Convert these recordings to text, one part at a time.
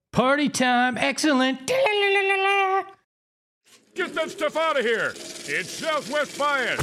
Party time, excellent. Get that stuff out of here. It's Southwest Bias.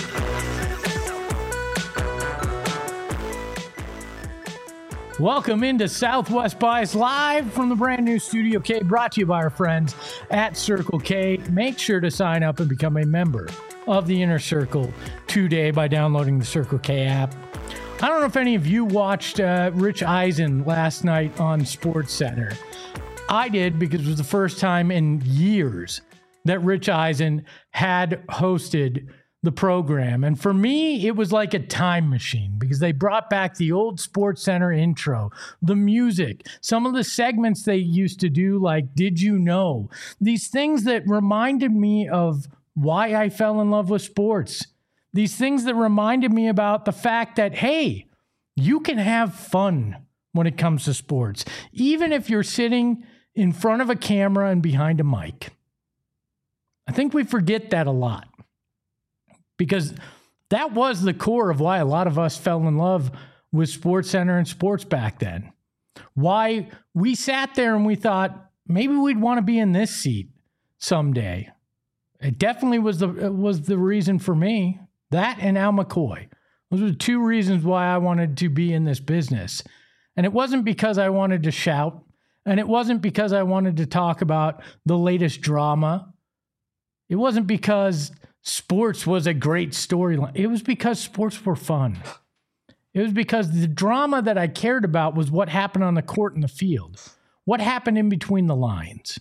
Welcome into Southwest Bias live from the brand new Studio K, brought to you by our friends at Circle K. Make sure to sign up and become a member of the Inner Circle today by downloading the Circle K app. I don't know if any of you watched Rich Eisen last night on SportsCenter. I did, because it was the first time in years that Rich Eisen had hosted the program. And for me, it was like a time machine, because they brought back the old SportsCenter intro, the music, some of the segments they used to do, like Did You Know? These things that reminded me of why I fell in love with sports. These things that reminded me about the fact that, hey, you can have fun when it comes to sports, even if you're sitting in front of a camera and behind a mic. I think we forget that a lot, because that was the core of why a lot of us fell in love with SportsCenter and sports back then. Why we sat there and we thought, maybe we'd want to be in this seat someday. It definitely was the reason for me. That and Al McCoy. Those were the two reasons why I wanted to be in this business. And it wasn't because I wanted to shout. And it wasn't because I wanted to talk about the latest drama. It wasn't because sports was a great storyline. It was because sports were fun. It was because the drama that I cared about was what happened on the court and the field. What happened in between the lines.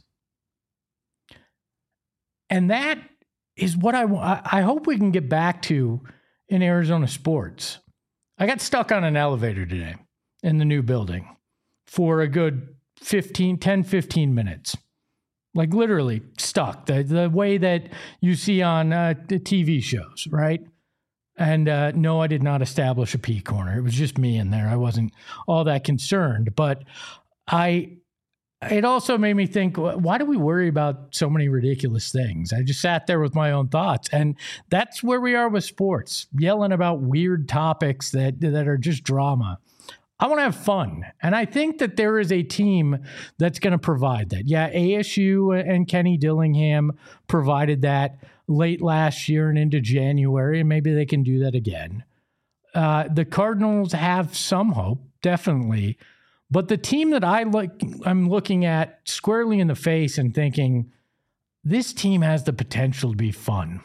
And that is what I hope we can get back to in Arizona sports. I got stuck on an elevator today in the new building for a good 10, 15 minutes. Like literally stuck. The way that you see on the TV shows, right? And no, I did not establish a pee corner. It was just me in there. I wasn't all that concerned. But it also made me think, why do we worry about so many ridiculous things? I just sat there with my own thoughts. And that's where we are with sports, yelling about weird topics that are just drama. I want to have fun. And I think that there is a team that's going to provide that. Yeah, ASU and Kenny Dillingham provided that late last year and into January, and maybe they can do that again. The Cardinals have some hope, definitely. But the team that I'm looking at squarely in the face and thinking, this team has the potential to be fun,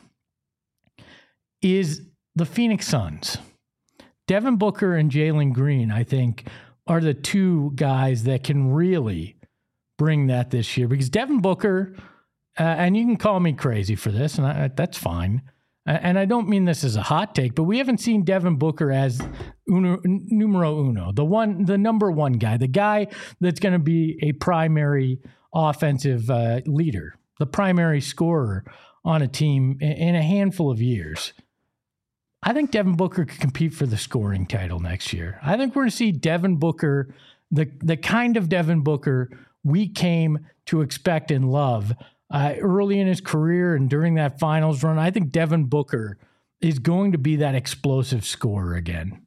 is the Phoenix Suns. Devin Booker and Jalen Green, I think, are the two guys that can really bring that this year. Because Devin Booker, and you can call me crazy for this, and that's fine. And I don't mean this as a hot take, but we haven't seen Devin Booker as numero uno, the number one guy, the guy that's going to be a primary offensive leader, the primary scorer on a team in a handful of years. I think Devin Booker could compete for the scoring title next year. I think we're going to see Devin Booker, the kind of Devin Booker we came to expect and love early in his career and during that finals run. I think Devin Booker is going to be that explosive scorer again.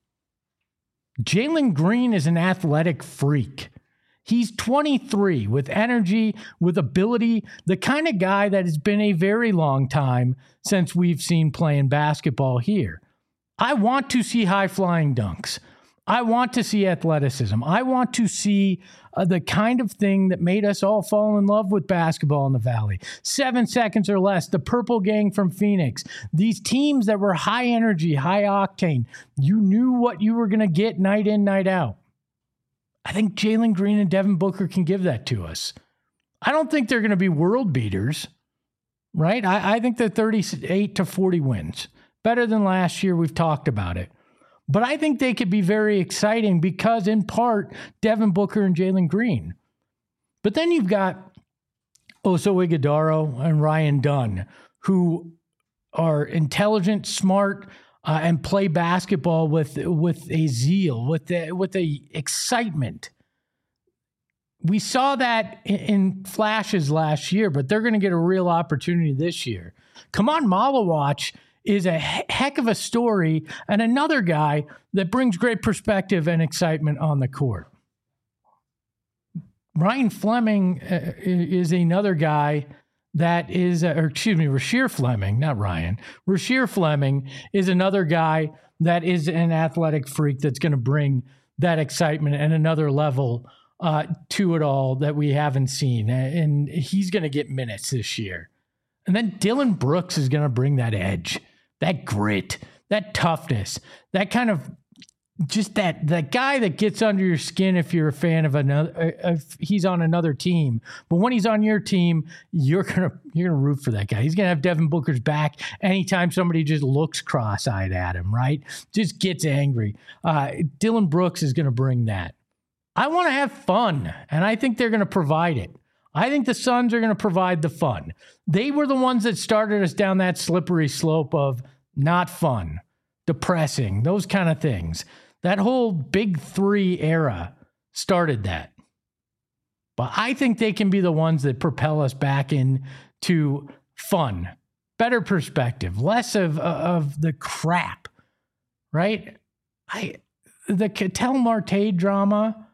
Jalen Green is an athletic freak. He's 23 with energy, with ability, the kind of guy that has been a very long time since we've seen playing basketball here. I want to see high-flying dunks. I want to see athleticism. I want to see the kind of thing that made us all fall in love with basketball in the Valley. 7 seconds or less, the Purple Gang from Phoenix. These teams that were high energy, high octane. You knew what you were going to get night in, night out. I think Jalen Green and Devin Booker can give that to us. I don't think they're going to be world beaters, right? I think they're 38 to 40 wins. Better than last year. We've talked about it. But I think they could be very exciting because, in part, Devin Booker and Jalen Green. But then you've got Oso Ighodaro and Ryan Dunn, who are intelligent, smart, and play basketball with a zeal, with a excitement. We saw that in flashes last year, but they're going to get a real opportunity this year. Kamon Malawach is a heck of a story and another guy that brings great perspective and excitement on the court. Ryan Fleming is another guy that is, Rasheer Fleming, not Ryan. Rasheer Fleming is another guy that is an athletic freak that's going to bring that excitement and another level to it all that we haven't seen. And he's going to get minutes this year. And then Dylan Brooks is going to bring that edge, that grit, that toughness, that kind of just that guy that gets under your skin if you're a fan of another, if he's on another team. But when he's on your team, you're gonna root for that guy. He's gonna have Devin Booker's back anytime somebody just looks cross-eyed at him, right? Just gets angry. Dylan Brooks is gonna bring that. I want to have fun, and I think they're gonna provide it. I think the Suns are gonna provide the fun. They were the ones that started us down that slippery slope of not fun, depressing, those kind of things. That whole Big Three era started that. But I think they can be the ones that propel us back into fun, better perspective, less of the crap, right? The Ketel Marte drama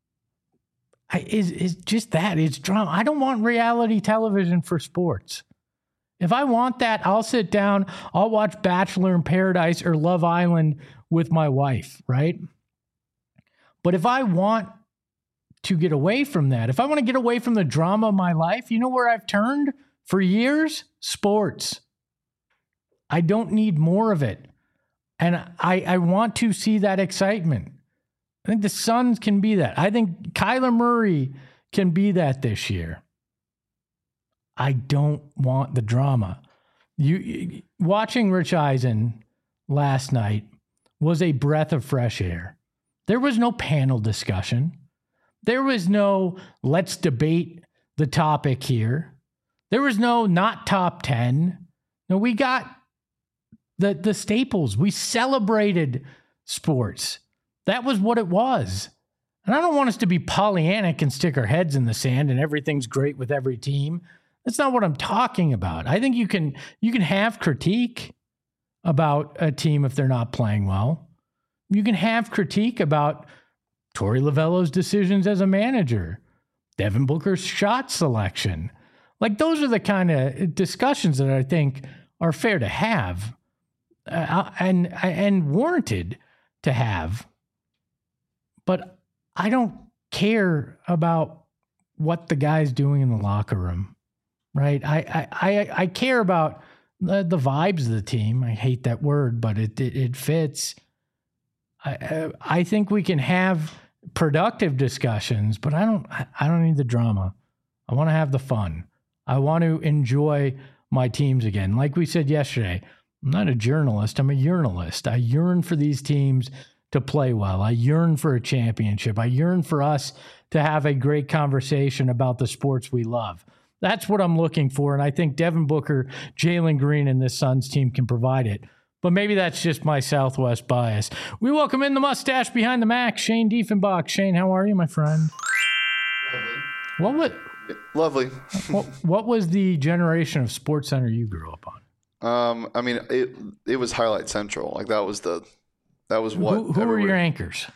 is just that. It's drama. I don't want reality television for sports. If I want that, I'll sit down, I'll watch Bachelor in Paradise or Love Island with my wife, right? But if I want to get away from that, if I want to get away from the drama of my life, you know where I've turned for years? Sports. I don't need more of it. And I want to see that excitement. I think the Suns can be that. I think Kyler Murray can be that this year. I don't want the drama. You watching Rich Eisen last night was a breath of fresh air. There was no panel discussion. There was no let's debate the topic here. There was no not top 10. No, we got the staples. We celebrated sports. That was what it was. And I don't want us to be Pollyannic and stick our heads in the sand and everything's great with every team. That's not what I'm talking about. I think you can have critique about a team if they're not playing well. You can have critique about Torey Lovello's decisions as a manager, Devin Booker's shot selection. Like those are the kind of discussions that I think are fair to have and warranted to have. But I don't care about what the guy's doing in the locker room. Right. I care about the vibes of the team. I hate that word, but it fits. I think we can have productive discussions, but I don't need the drama. I want to have the fun. I want to enjoy my teams again. Like we said yesterday, I'm not a journalist. I'm a yearnalist. I yearn for these teams to play well. I yearn for a championship. I yearn for us to have a great conversation about the sports we love. That's what I'm looking for, and I think Devin Booker, Jalen Green, and this Suns team can provide it. But maybe that's just my Southwest bias. We welcome in the mustache behind the Mac, Shane Diefenbach. Shane, how are you, my friend? Lovely. What was the generation of SportsCenter you grew up on? I mean, it was Highlight Central. Like that was what. Who were your anchors?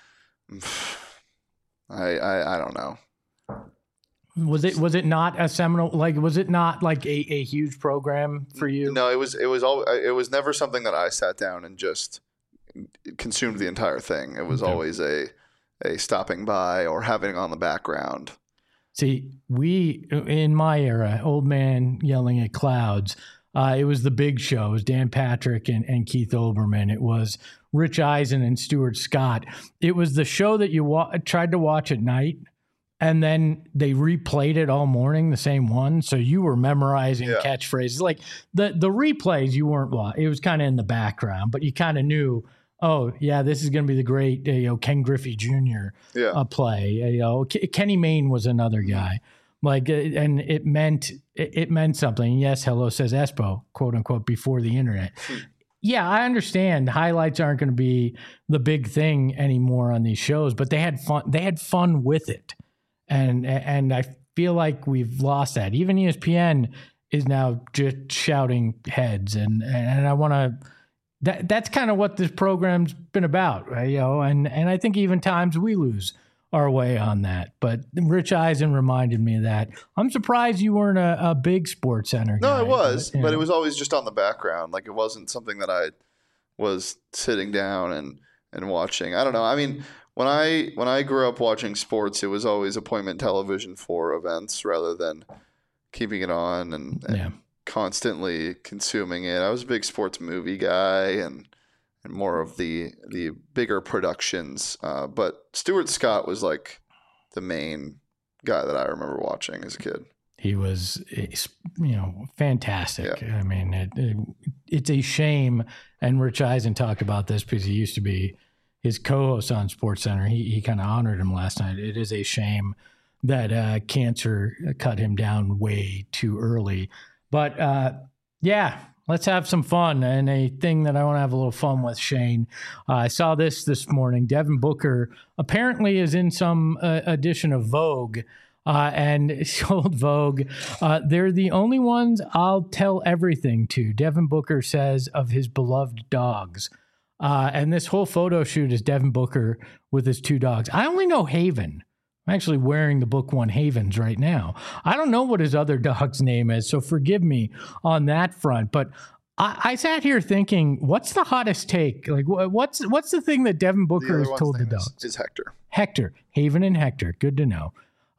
I don't know. Was it not a seminal, like, was it not like a huge program for you? No, it was never something that I sat down and just consumed the entire thing. It was always a stopping by or having it on the background. See, we, in my era, old man yelling at clouds, it was the big show. It was Dan Patrick and Keith Olbermann. It was Rich Eisen and Stuart Scott. It was the show that you tried to watch at night. And then they replayed it all morning, the same one. So you were memorizing catchphrases. Like the replays, you weren't, it was kind of in the background, but you kind of knew, oh, yeah, this is going to be the great Ken Griffey Jr. Play. Kenny Mayne was another guy. Like, and it meant something. Yes, hello, says Espo, quote unquote, before the internet. Yeah, I understand highlights aren't going to be the big thing anymore on these shows, but they had fun. They had fun with it. And I feel like we've lost that. Even ESPN is now just shouting heads, and I want to. That's kind of what this program's been about, right? And I think even times we lose our way on that. But Rich Eisen reminded me of that. I'm surprised you weren't a big Sports Center guy. No, I was, but it was always just on the background. Like, it wasn't something that I was sitting down and watching. I don't know. I mean, when I grew up watching sports, it was always appointment television for events rather than keeping it on and constantly consuming it. I was a big sports movie guy and more of the bigger productions. But Stuart Scott was like the main guy that I remember watching as a kid. He was, fantastic. Yeah. I mean, it's a shame. And Rich Eisen talked about this because he used to be his co-host on SportsCenter. He kind of honored him last night. It is a shame that cancer cut him down way too early. But let's have some fun. And a thing that I want to have a little fun with, Shane. I saw this morning. Devin Booker apparently is in some edition of Vogue. And told Vogue, they're the only ones I'll tell everything to, Devin Booker says of his beloved dogs. And this whole photo shoot is Devin Booker with his 2 dogs. I only know Haven. I'm actually wearing the Book One Havens right now. I don't know what his other dog's name is, so forgive me on that front. But I sat here thinking, what's the hottest take? Like, what's the thing that Devin Booker has told the dogs? Is Hector. Hector. Haven and Hector. Good to know.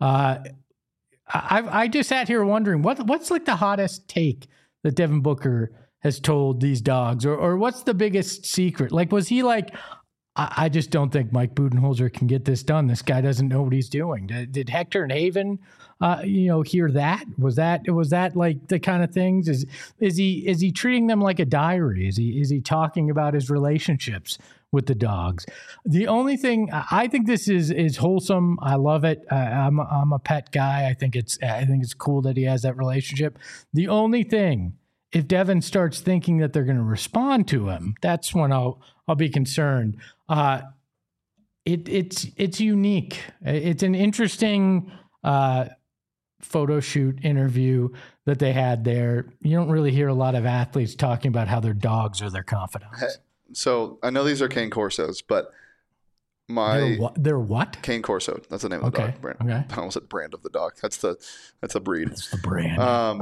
I just sat here wondering what's like the hottest take that Devin Booker has told these dogs, or what's the biggest secret? Like, was he like, I just don't think Mike Budenholzer can get this done. This guy doesn't know what he's doing. Did Hector and Haven, hear that? Was that like the kind of things? Is he treating them like a diary? Is he talking about his relationships with the dogs? The only thing, I think this is wholesome. I love it. I'm a pet guy. I think it's cool that he has that relationship. The only thing, if Devin starts thinking that they're going to respond to him, that's when I'll be concerned. It's unique. It's an interesting photo shoot interview that they had there. You don't really hear a lot of athletes talking about how their dogs are their confidants. So I know these are Cane Corsos, but they're what? Cane Corso. That's the name of the dog brand. Okay. I almost said brand of the dog. That's the breed. That's the brand.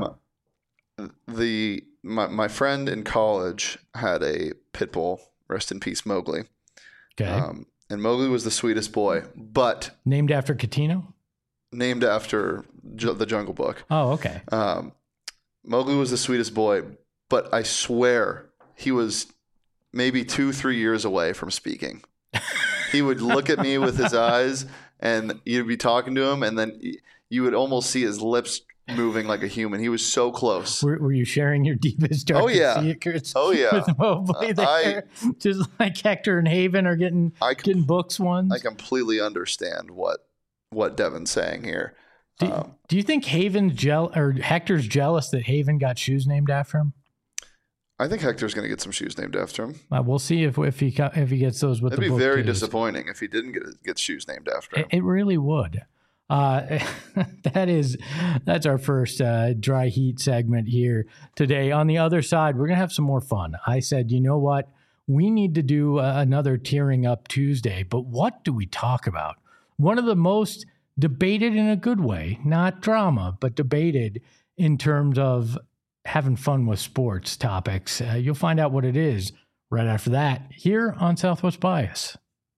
My friend in college had a pit bull. Rest in peace, Mowgli. Okay. And Mowgli was the sweetest boy, but named after Catino? Named after the Jungle Book. Oh, okay. Mowgli was the sweetest boy, but I swear he was maybe 2-3 years away from speaking. He would look at me with his eyes, and you'd be talking to him, and then you would almost see his lips moving like a human. He was so close. Were you sharing your deepest, darkest secrets? Oh yeah. With Mowgli there, just like Hector and Haven are getting books ones. I completely understand what Devin's saying here. Do you think Hector's jealous that Haven got shoes named after him? I think Hector's going to get some shoes named after him. We'll see if he gets those with the book. It'd be very disappointing if he didn't get shoes named after him. It really would. That's our first dry heat segment here today. On the other side, we're going to have some more fun. I said, you know what? We need to do another Tearing Up Tuesday, but what do we talk about? One of the most debated in a good way, not drama, but debated in terms of having fun with sports topics. You'll find out what it is right after that here on Southwest Bias.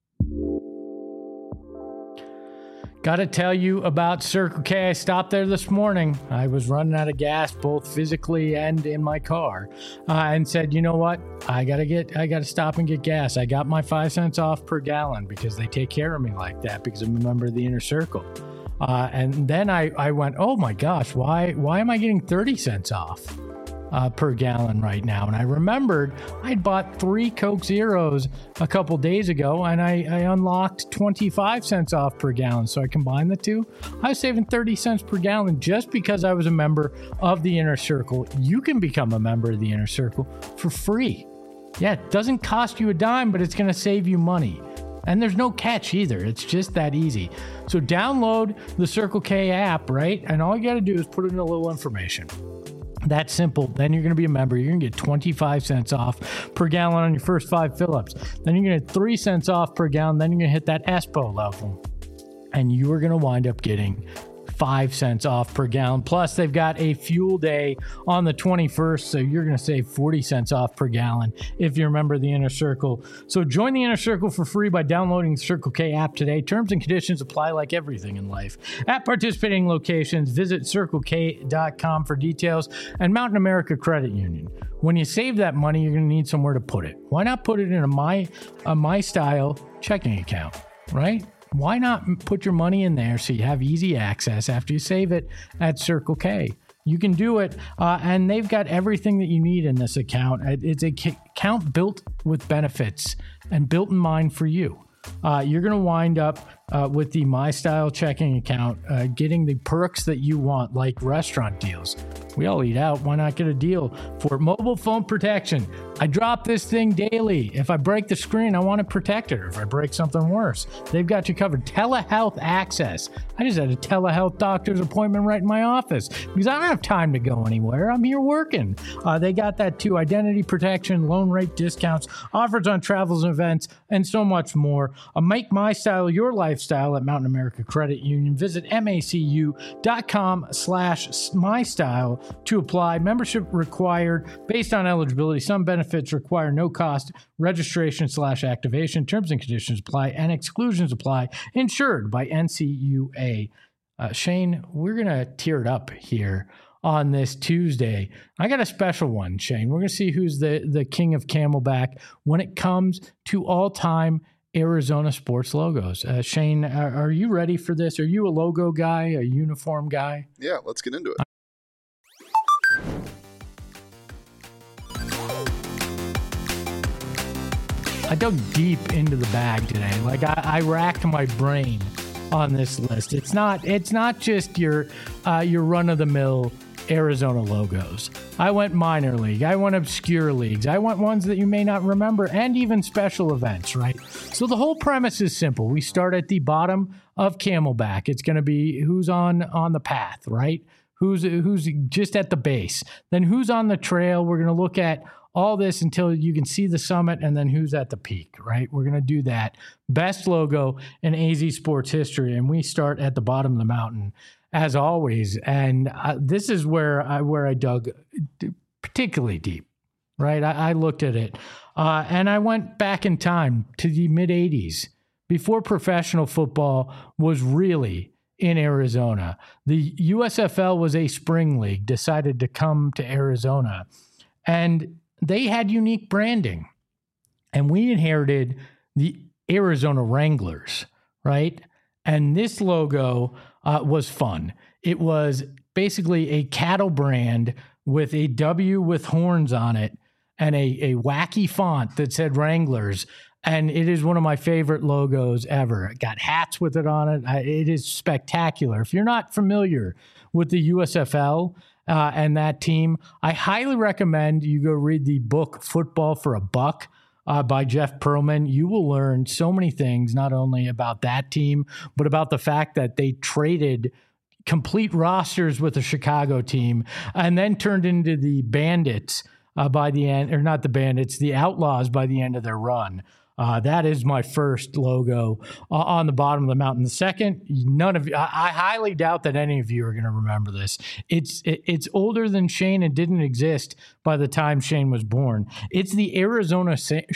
Got to tell you about Circle K. I stopped there this morning. I was running out of gas, both physically and in my car, and said, you know what? I got to stop and get gas. I got my 5 cents off per gallon because they take care of me like that because I'm a member of the Inner Circle. And then I went, oh my gosh, why am I getting 30 cents off per gallon right now? And I remembered I'd bought 3 Coke Zeros a couple days ago, and I unlocked 25 cents off per gallon. So I combined the two. I was saving 30 cents per gallon just because I was a member of the Inner Circle. You can become a member of the Inner Circle for free. Yeah, it doesn't cost you a dime, but it's going to save you money. And there's no catch either. It's just that easy. So download the Circle K app, right? And all you got to do is put in a little information. That's simple. Then you're going to be a member. You're going to get 25 cents off per gallon on your first 5 fill-ups. Then you're going to get 3 cents off per gallon. Then you're going to hit that ESPO level. and you are going to wind up getting 5 cents off per gallon. Plus, they've got a fuel day on the 21st, so you're going to save 40 cents off per gallon if you're a member of the Inner Circle. So join the Inner Circle for free by downloading the Circle K app today. Terms and conditions apply like everything in life. At participating locations, visit CircleK.com for details, and Mountain America Credit Union. When you save that money, you're going to need somewhere to put it. Why not put it in a My Style checking account, right? Why not put your money in there so you have easy access after you save it at Circle K? You can do it, and they've got everything that you need in this account. It's an account built with benefits and built in mind for you. You're going to wind up with the My Style checking account getting the perks that you want, like restaurant deals. We all eat out. Why not get a deal for mobile phone protection? I drop this thing daily. If I break the screen, I want to protect it. Or if I break something worse, they've got you covered. Telehealth access. I just had a telehealth doctor's appointment right in my office because I don't have time to go anywhere. I'm here working. They got that too. Identity protection, loan rate discounts, offers on travels and events, and so much more. Make My Style your lifestyle at Mountain America Credit Union. Visit macu.com/mystyle to apply. Membership required based on eligibility. Some benefits require no cost registration/activation. Terms and conditions apply and exclusions apply. Insured by NCUA. Shane, we're going to tear it up here on this Tuesday. I got a special one, Shane. We're going to see who's the king of Camelback when it comes to all-time Arizona sports logos. Shane, are you ready for this? Are you a logo guy, a uniform guy? Yeah, let's get into it. I dug deep into the bag today. Like I racked my brain on this list. It's not just your run-of-the-mill Arizona logos. I went minor league. I went obscure leagues. I went ones that you may not remember, and even special events, right? So the whole premise is simple. We start at the bottom of Camelback. It's going to be who's on the path, right? Who's just at the base. Then who's on the trail. We're going to look at all this until you can see the summit, and then who's at the peak, right? We're going to do that. Best logo in AZ sports history, and we start at the bottom of the mountain, as always. And this is where I dug particularly deep, right? I looked at it, and I went back in time to the mid-'80s, before professional football was really in Arizona. The USFL was a spring league, decided to come to Arizona, and they had unique branding. And we inherited the Arizona Wranglers, right? And this logo was fun. It was basically a cattle brand with a W with horns on it and a wacky font that said Wranglers. And it is one of my favorite logos ever. It got hats with it on it. It is spectacular. If you're not familiar with the USFL and that team, I highly recommend you go read the book Football for a Buck by Jeff Pearlman. You will learn so many things, not only about that team, but about the fact that they traded complete rosters with the Chicago team and then turned into the Bandits by the end, or not the Bandits, the Outlaws by the end of their run. That is my first logo on the bottom of the mountain. The second, none of you, I highly doubt that any of you are going to remember this. It's older than Shane and didn't exist by the time Shane was born. It's the Arizona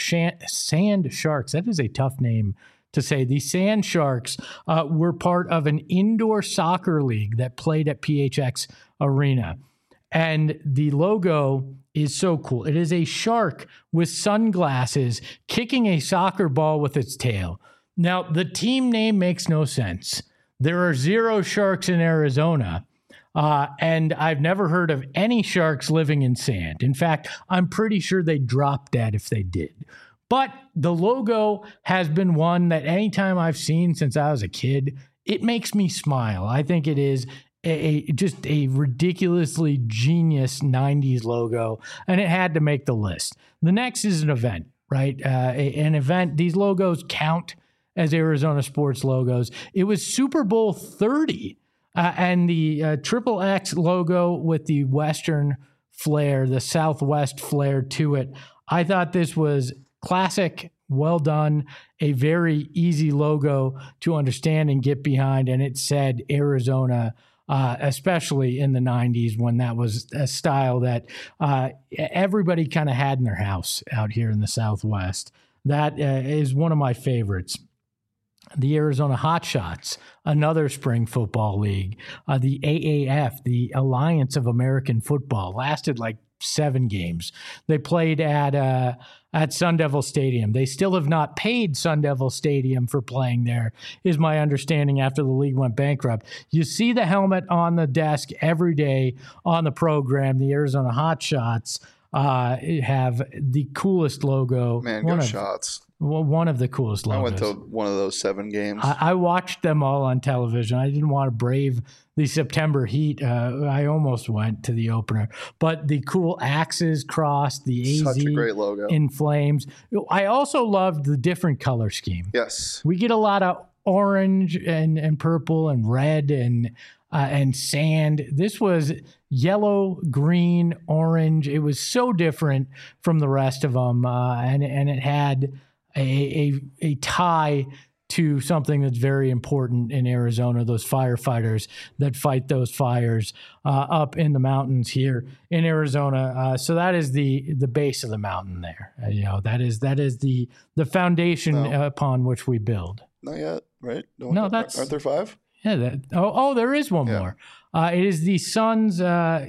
Sand Sharks. That is a tough name to say. The Sand Sharks were part of an indoor soccer league that played at PHX Arena. And the logo is so cool. It is a shark with sunglasses kicking a soccer ball with its tail. Now, the team name makes no sense. There are 0 sharks in Arizona, and I've never heard of any sharks living in sand. In fact, I'm pretty sure they'd drop dead if they did. But the logo has been one that anytime I've seen since I was a kid, it makes me smile. I think it is just a ridiculously genius 90s logo, and it had to make the list. The next is an event, right? An event. These logos count as Arizona sports logos. It was Super Bowl 30, and the Triple X logo with the Western flair, the Southwest flair to it. I thought this was classic well done, a very easy logo to understand and get behind. And it said Arizona, especially in the 90s when that was a style that everybody kind of had in their house out here in the Southwest. That is one of my favorites. The Arizona Hotshots, another spring football league. The AAF, the Alliance of American Football, lasted like 7 games. They played at Sun Devil Stadium. They still have not paid Sun Devil Stadium for playing there, is my understanding, after the league went bankrupt. You see the helmet on the desk every day on the program. The Arizona Hotshots have the coolest logo. Man, go Shots. Well, one of the coolest logos. I went to one of those 7 games. I watched them all on television. I didn't want to brave the September heat. I almost went to the opener. But the cool axes crossed, the AZ Such a great logo. in flames. I also loved the different color scheme. Yes. We get a lot of orange and purple and red and sand. This was yellow, green, orange. It was so different from the rest of them. And it had a tie to something that's very important in Arizona, those firefighters that fight those fires up in the mountains here in Arizona. So that is the base of the mountain there. That is the foundation upon which we build. Not yet, right? No, that's... Aren't there 5? Yeah. There is one more. It is the sun's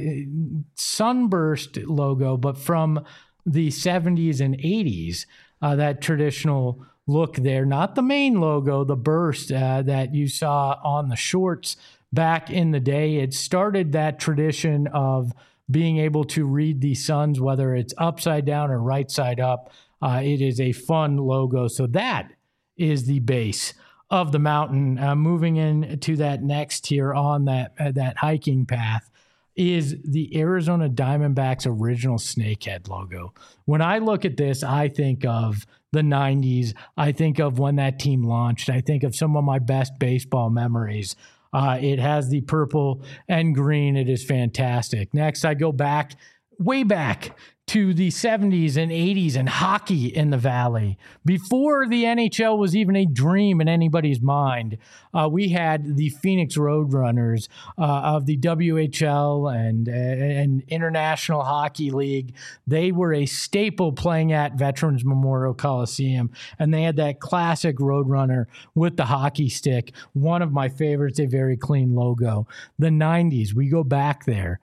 sunburst logo, but from the 70s and 80s. That traditional look there, not the main logo, the burst that you saw on the shorts back in the day. It started that tradition of being able to read the suns, whether it's upside down or right side up. It is a fun logo. So that is the base of the mountain. Moving into that next tier on that hiking path is the Arizona Diamondbacks original snakehead logo. When I look at this, I think of the 90s. I think of when that team launched. I think of some of my best baseball memories. It has the purple and green. It is fantastic. Next, I go way back to the 70s and 80s and hockey in the Valley. Before the NHL was even a dream in anybody's mind, we had the Phoenix Roadrunners of the WHL and International Hockey League. They were a staple playing at Veterans Memorial Coliseum, and they had that classic Roadrunner with the hockey stick. One of my favorites, a very clean logo. The 90s, we go back there.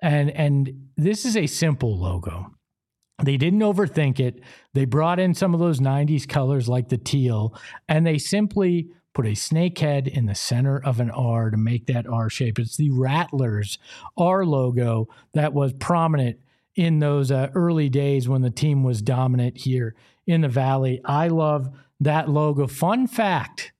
And this is a simple logo. They didn't overthink it. They brought in some of those 90s colors like the teal, and they simply put a snake head in the center of an R to make that R shape. It's the Rattlers R logo that was prominent in those early days when the team was dominant here in the Valley. I love that logo. Fun fact,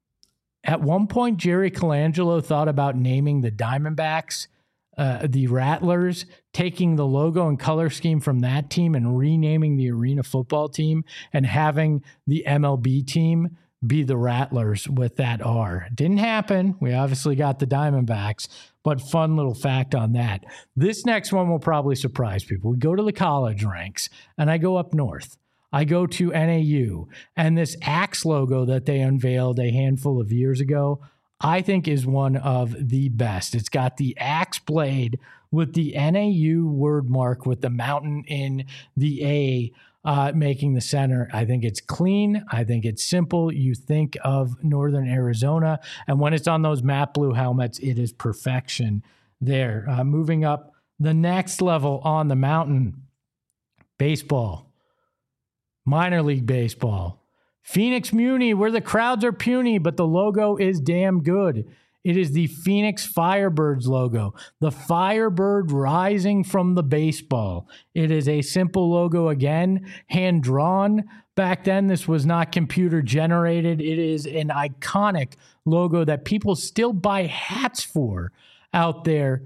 at one point, Jerry Colangelo thought about naming the Diamondbacks the Rattlers, taking the logo and color scheme from that team and renaming the arena football team and having the MLB team be the Rattlers with that R. Didn't happen. We obviously got the Diamondbacks, but fun little fact on that. This next one will probably surprise people. We go to the college ranks, and I go up north. I go to NAU, and this Axe logo that they unveiled a handful of years ago, I think is one of the best. It's got the axe blade with the NAU word mark with the mountain in the A making the center. I think it's clean. I think it's simple. You think of Northern Arizona, and when it's on those matte blue helmets, it is perfection there. Moving up the next level on the mountain, baseball, minor league baseball. Phoenix Muni, where the crowds are puny, but the logo is damn good. It is the Phoenix Firebirds logo, the Firebird rising from the baseball. It is a simple logo again, hand-drawn. Back then, this was not computer-generated. It is an iconic logo that people still buy hats for out there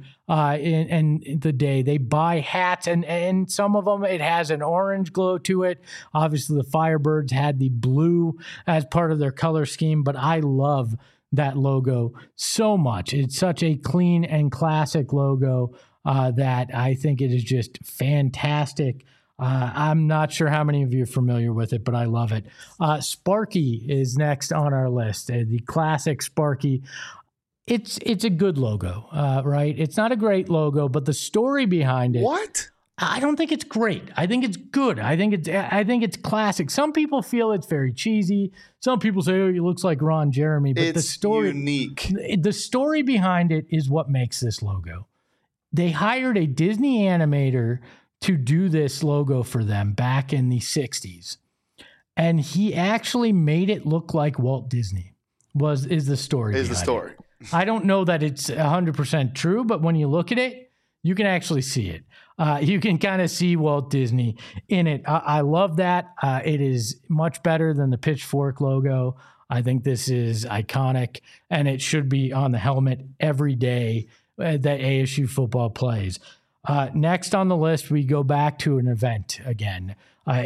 in the day. They buy hats, and some of them, it has an orange glow to it. Obviously, the Firebirds had the blue as part of their color scheme, but I love that logo so much. It's such a clean and classic logo that I think it is just fantastic I'm not sure how many of you are familiar with it, but I love it. Sparky is next on our list. The classic Sparky. It's a good logo, right? It's not a great logo, but the story behind it. What? I don't think it's great. I think it's good. I think it's classic. Some people feel it's very cheesy. Some people say, "Oh, he looks like Ron Jeremy." But It's the story, unique. the story behind it is what makes this logo. They hired a Disney animator to do this logo for them back in the 60s, and he actually made it look like Walt Disney. Is the story? Is the story? I don't know that it's 100% true, but when you look at it, you can actually see it. You can kind of see Walt Disney in it. I love that. It is much better than the Pitchfork logo. I think this is iconic, and it should be on the helmet every day that ASU football plays. Next on the list, we go back to an event again.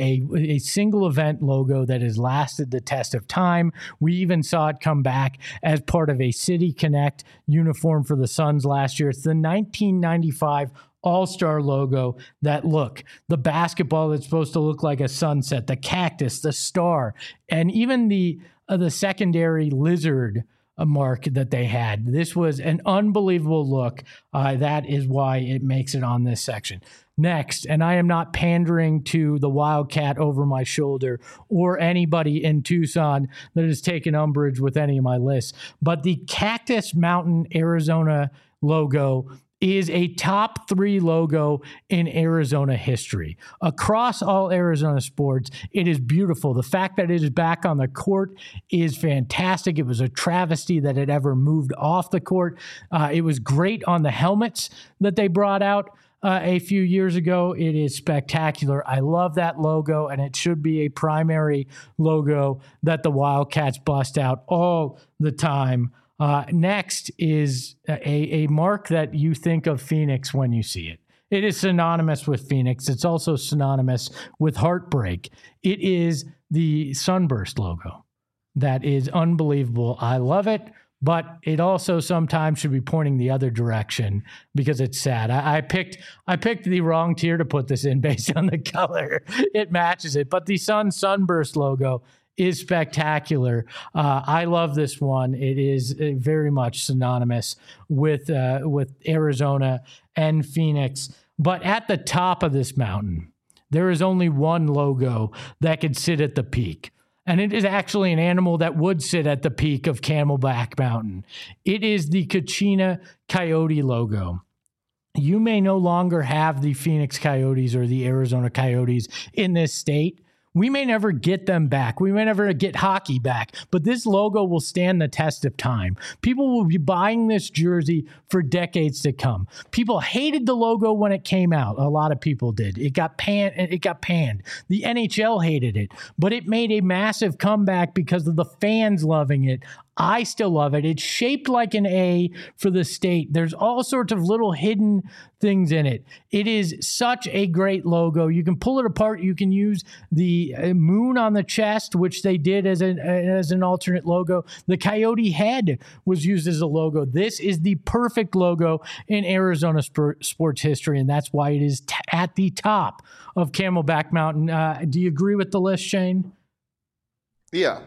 A single event logo that has lasted the test of time. We even saw it come back as part of a City Connect uniform for the Suns last year. It's the 1995 All-Star logo. The basketball that's supposed to look like a sunset, the cactus, the star, and even the secondary lizard mark that they had. This was an unbelievable look. That is why it makes it on this section. Next, and I am not pandering to the Wildcat over my shoulder or anybody in Tucson that has taken umbrage with any of my lists, but the Cactus Mountain, Arizona logo is a top 3 logo in Arizona history. Across all Arizona sports, it is beautiful. The fact that it is back on the court is fantastic. It was a travesty that it ever moved off the court. It was great on the helmets that they brought out a few years ago. It is spectacular. I love that logo, and it should be a primary logo that the Wildcats bust out all the time. Next is a mark that you think of Phoenix when you see it. It is synonymous with Phoenix. It's also synonymous with heartbreak. It is the Sunburst logo. That is unbelievable. I love it, but it also sometimes should be pointing the other direction because it's sad. I picked the wrong tier to put this in based on the color. It matches it, but the Sunburst logo is spectacular. I love this one. It is very much synonymous with Arizona and Phoenix. But at the top of this mountain, there is only one logo that could sit at the peak. And it is actually an animal that would sit at the peak of Camelback Mountain. It is the Kachina Coyote logo. You may no longer have the Phoenix Coyotes or the Arizona Coyotes in this state. We may never get them back. We may never get hockey back, but this logo will stand the test of time. People will be buying this jersey for decades to come. People hated the logo when it came out. A lot of people did. It got panned. The NHL hated it, but it made a massive comeback because of the fans loving it. I still love it. It's shaped like an A for the state. There's all sorts of little hidden things in it. It is such a great logo. You can pull it apart. You can use the moon on the chest, which they did as an alternate logo. The coyote head was used as a logo. This is the perfect logo in Arizona sports history, and that's why it is at the top of Camelback Mountain. Do you agree with the list, Shane? Yeah.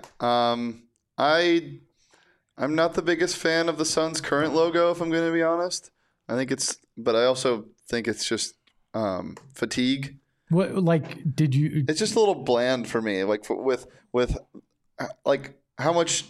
I'm not the biggest fan of the Suns' current logo, if I'm going to be honest. But I also think it's just fatigue. What, it's just a little bland for me. Like with how much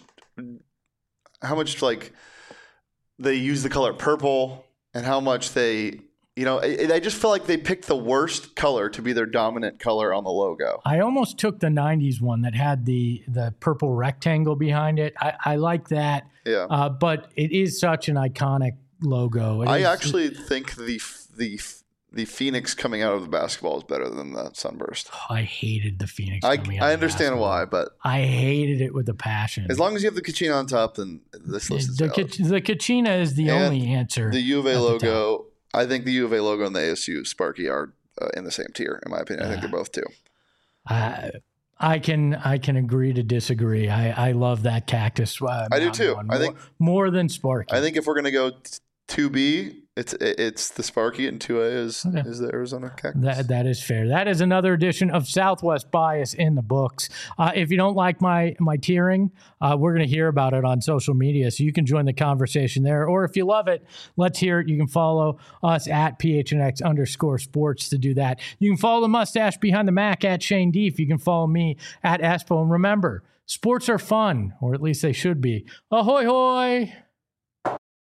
like they use the color purple and how much they. I just feel like they picked the worst color to be their dominant color on the logo. I almost took the 90s one that had the purple rectangle behind it. I like that. Yeah. But it is such an iconic logo. I actually think the Phoenix coming out of the basketball is better than the Sunburst. I hated the Phoenix coming out I understand why, but I hated it with a passion. As long as you have the Kachina on top, then this list is the Kachina is the only answer. The U of A logo. I think the U of A logo and the ASU Sparky are in the same tier, in my opinion. I think they're both too. I can agree to disagree. I love that cactus. I do too. I think more than Sparky. I think if we're going to go 2B, it's the Sparky, and 2A is the Arizona Cactus. That is fair. That is another edition of Southwest Bias in the books. If you don't like my tiering, we're going to hear about it on social media, so you can join the conversation there. Or if you love it, let's hear it. You can follow us at PHNX_sports to do that. You can follow the mustache behind the Mac at Shane Deef. You can follow me at Espo. And remember, sports are fun, or at least they should be. Ahoy, hoy!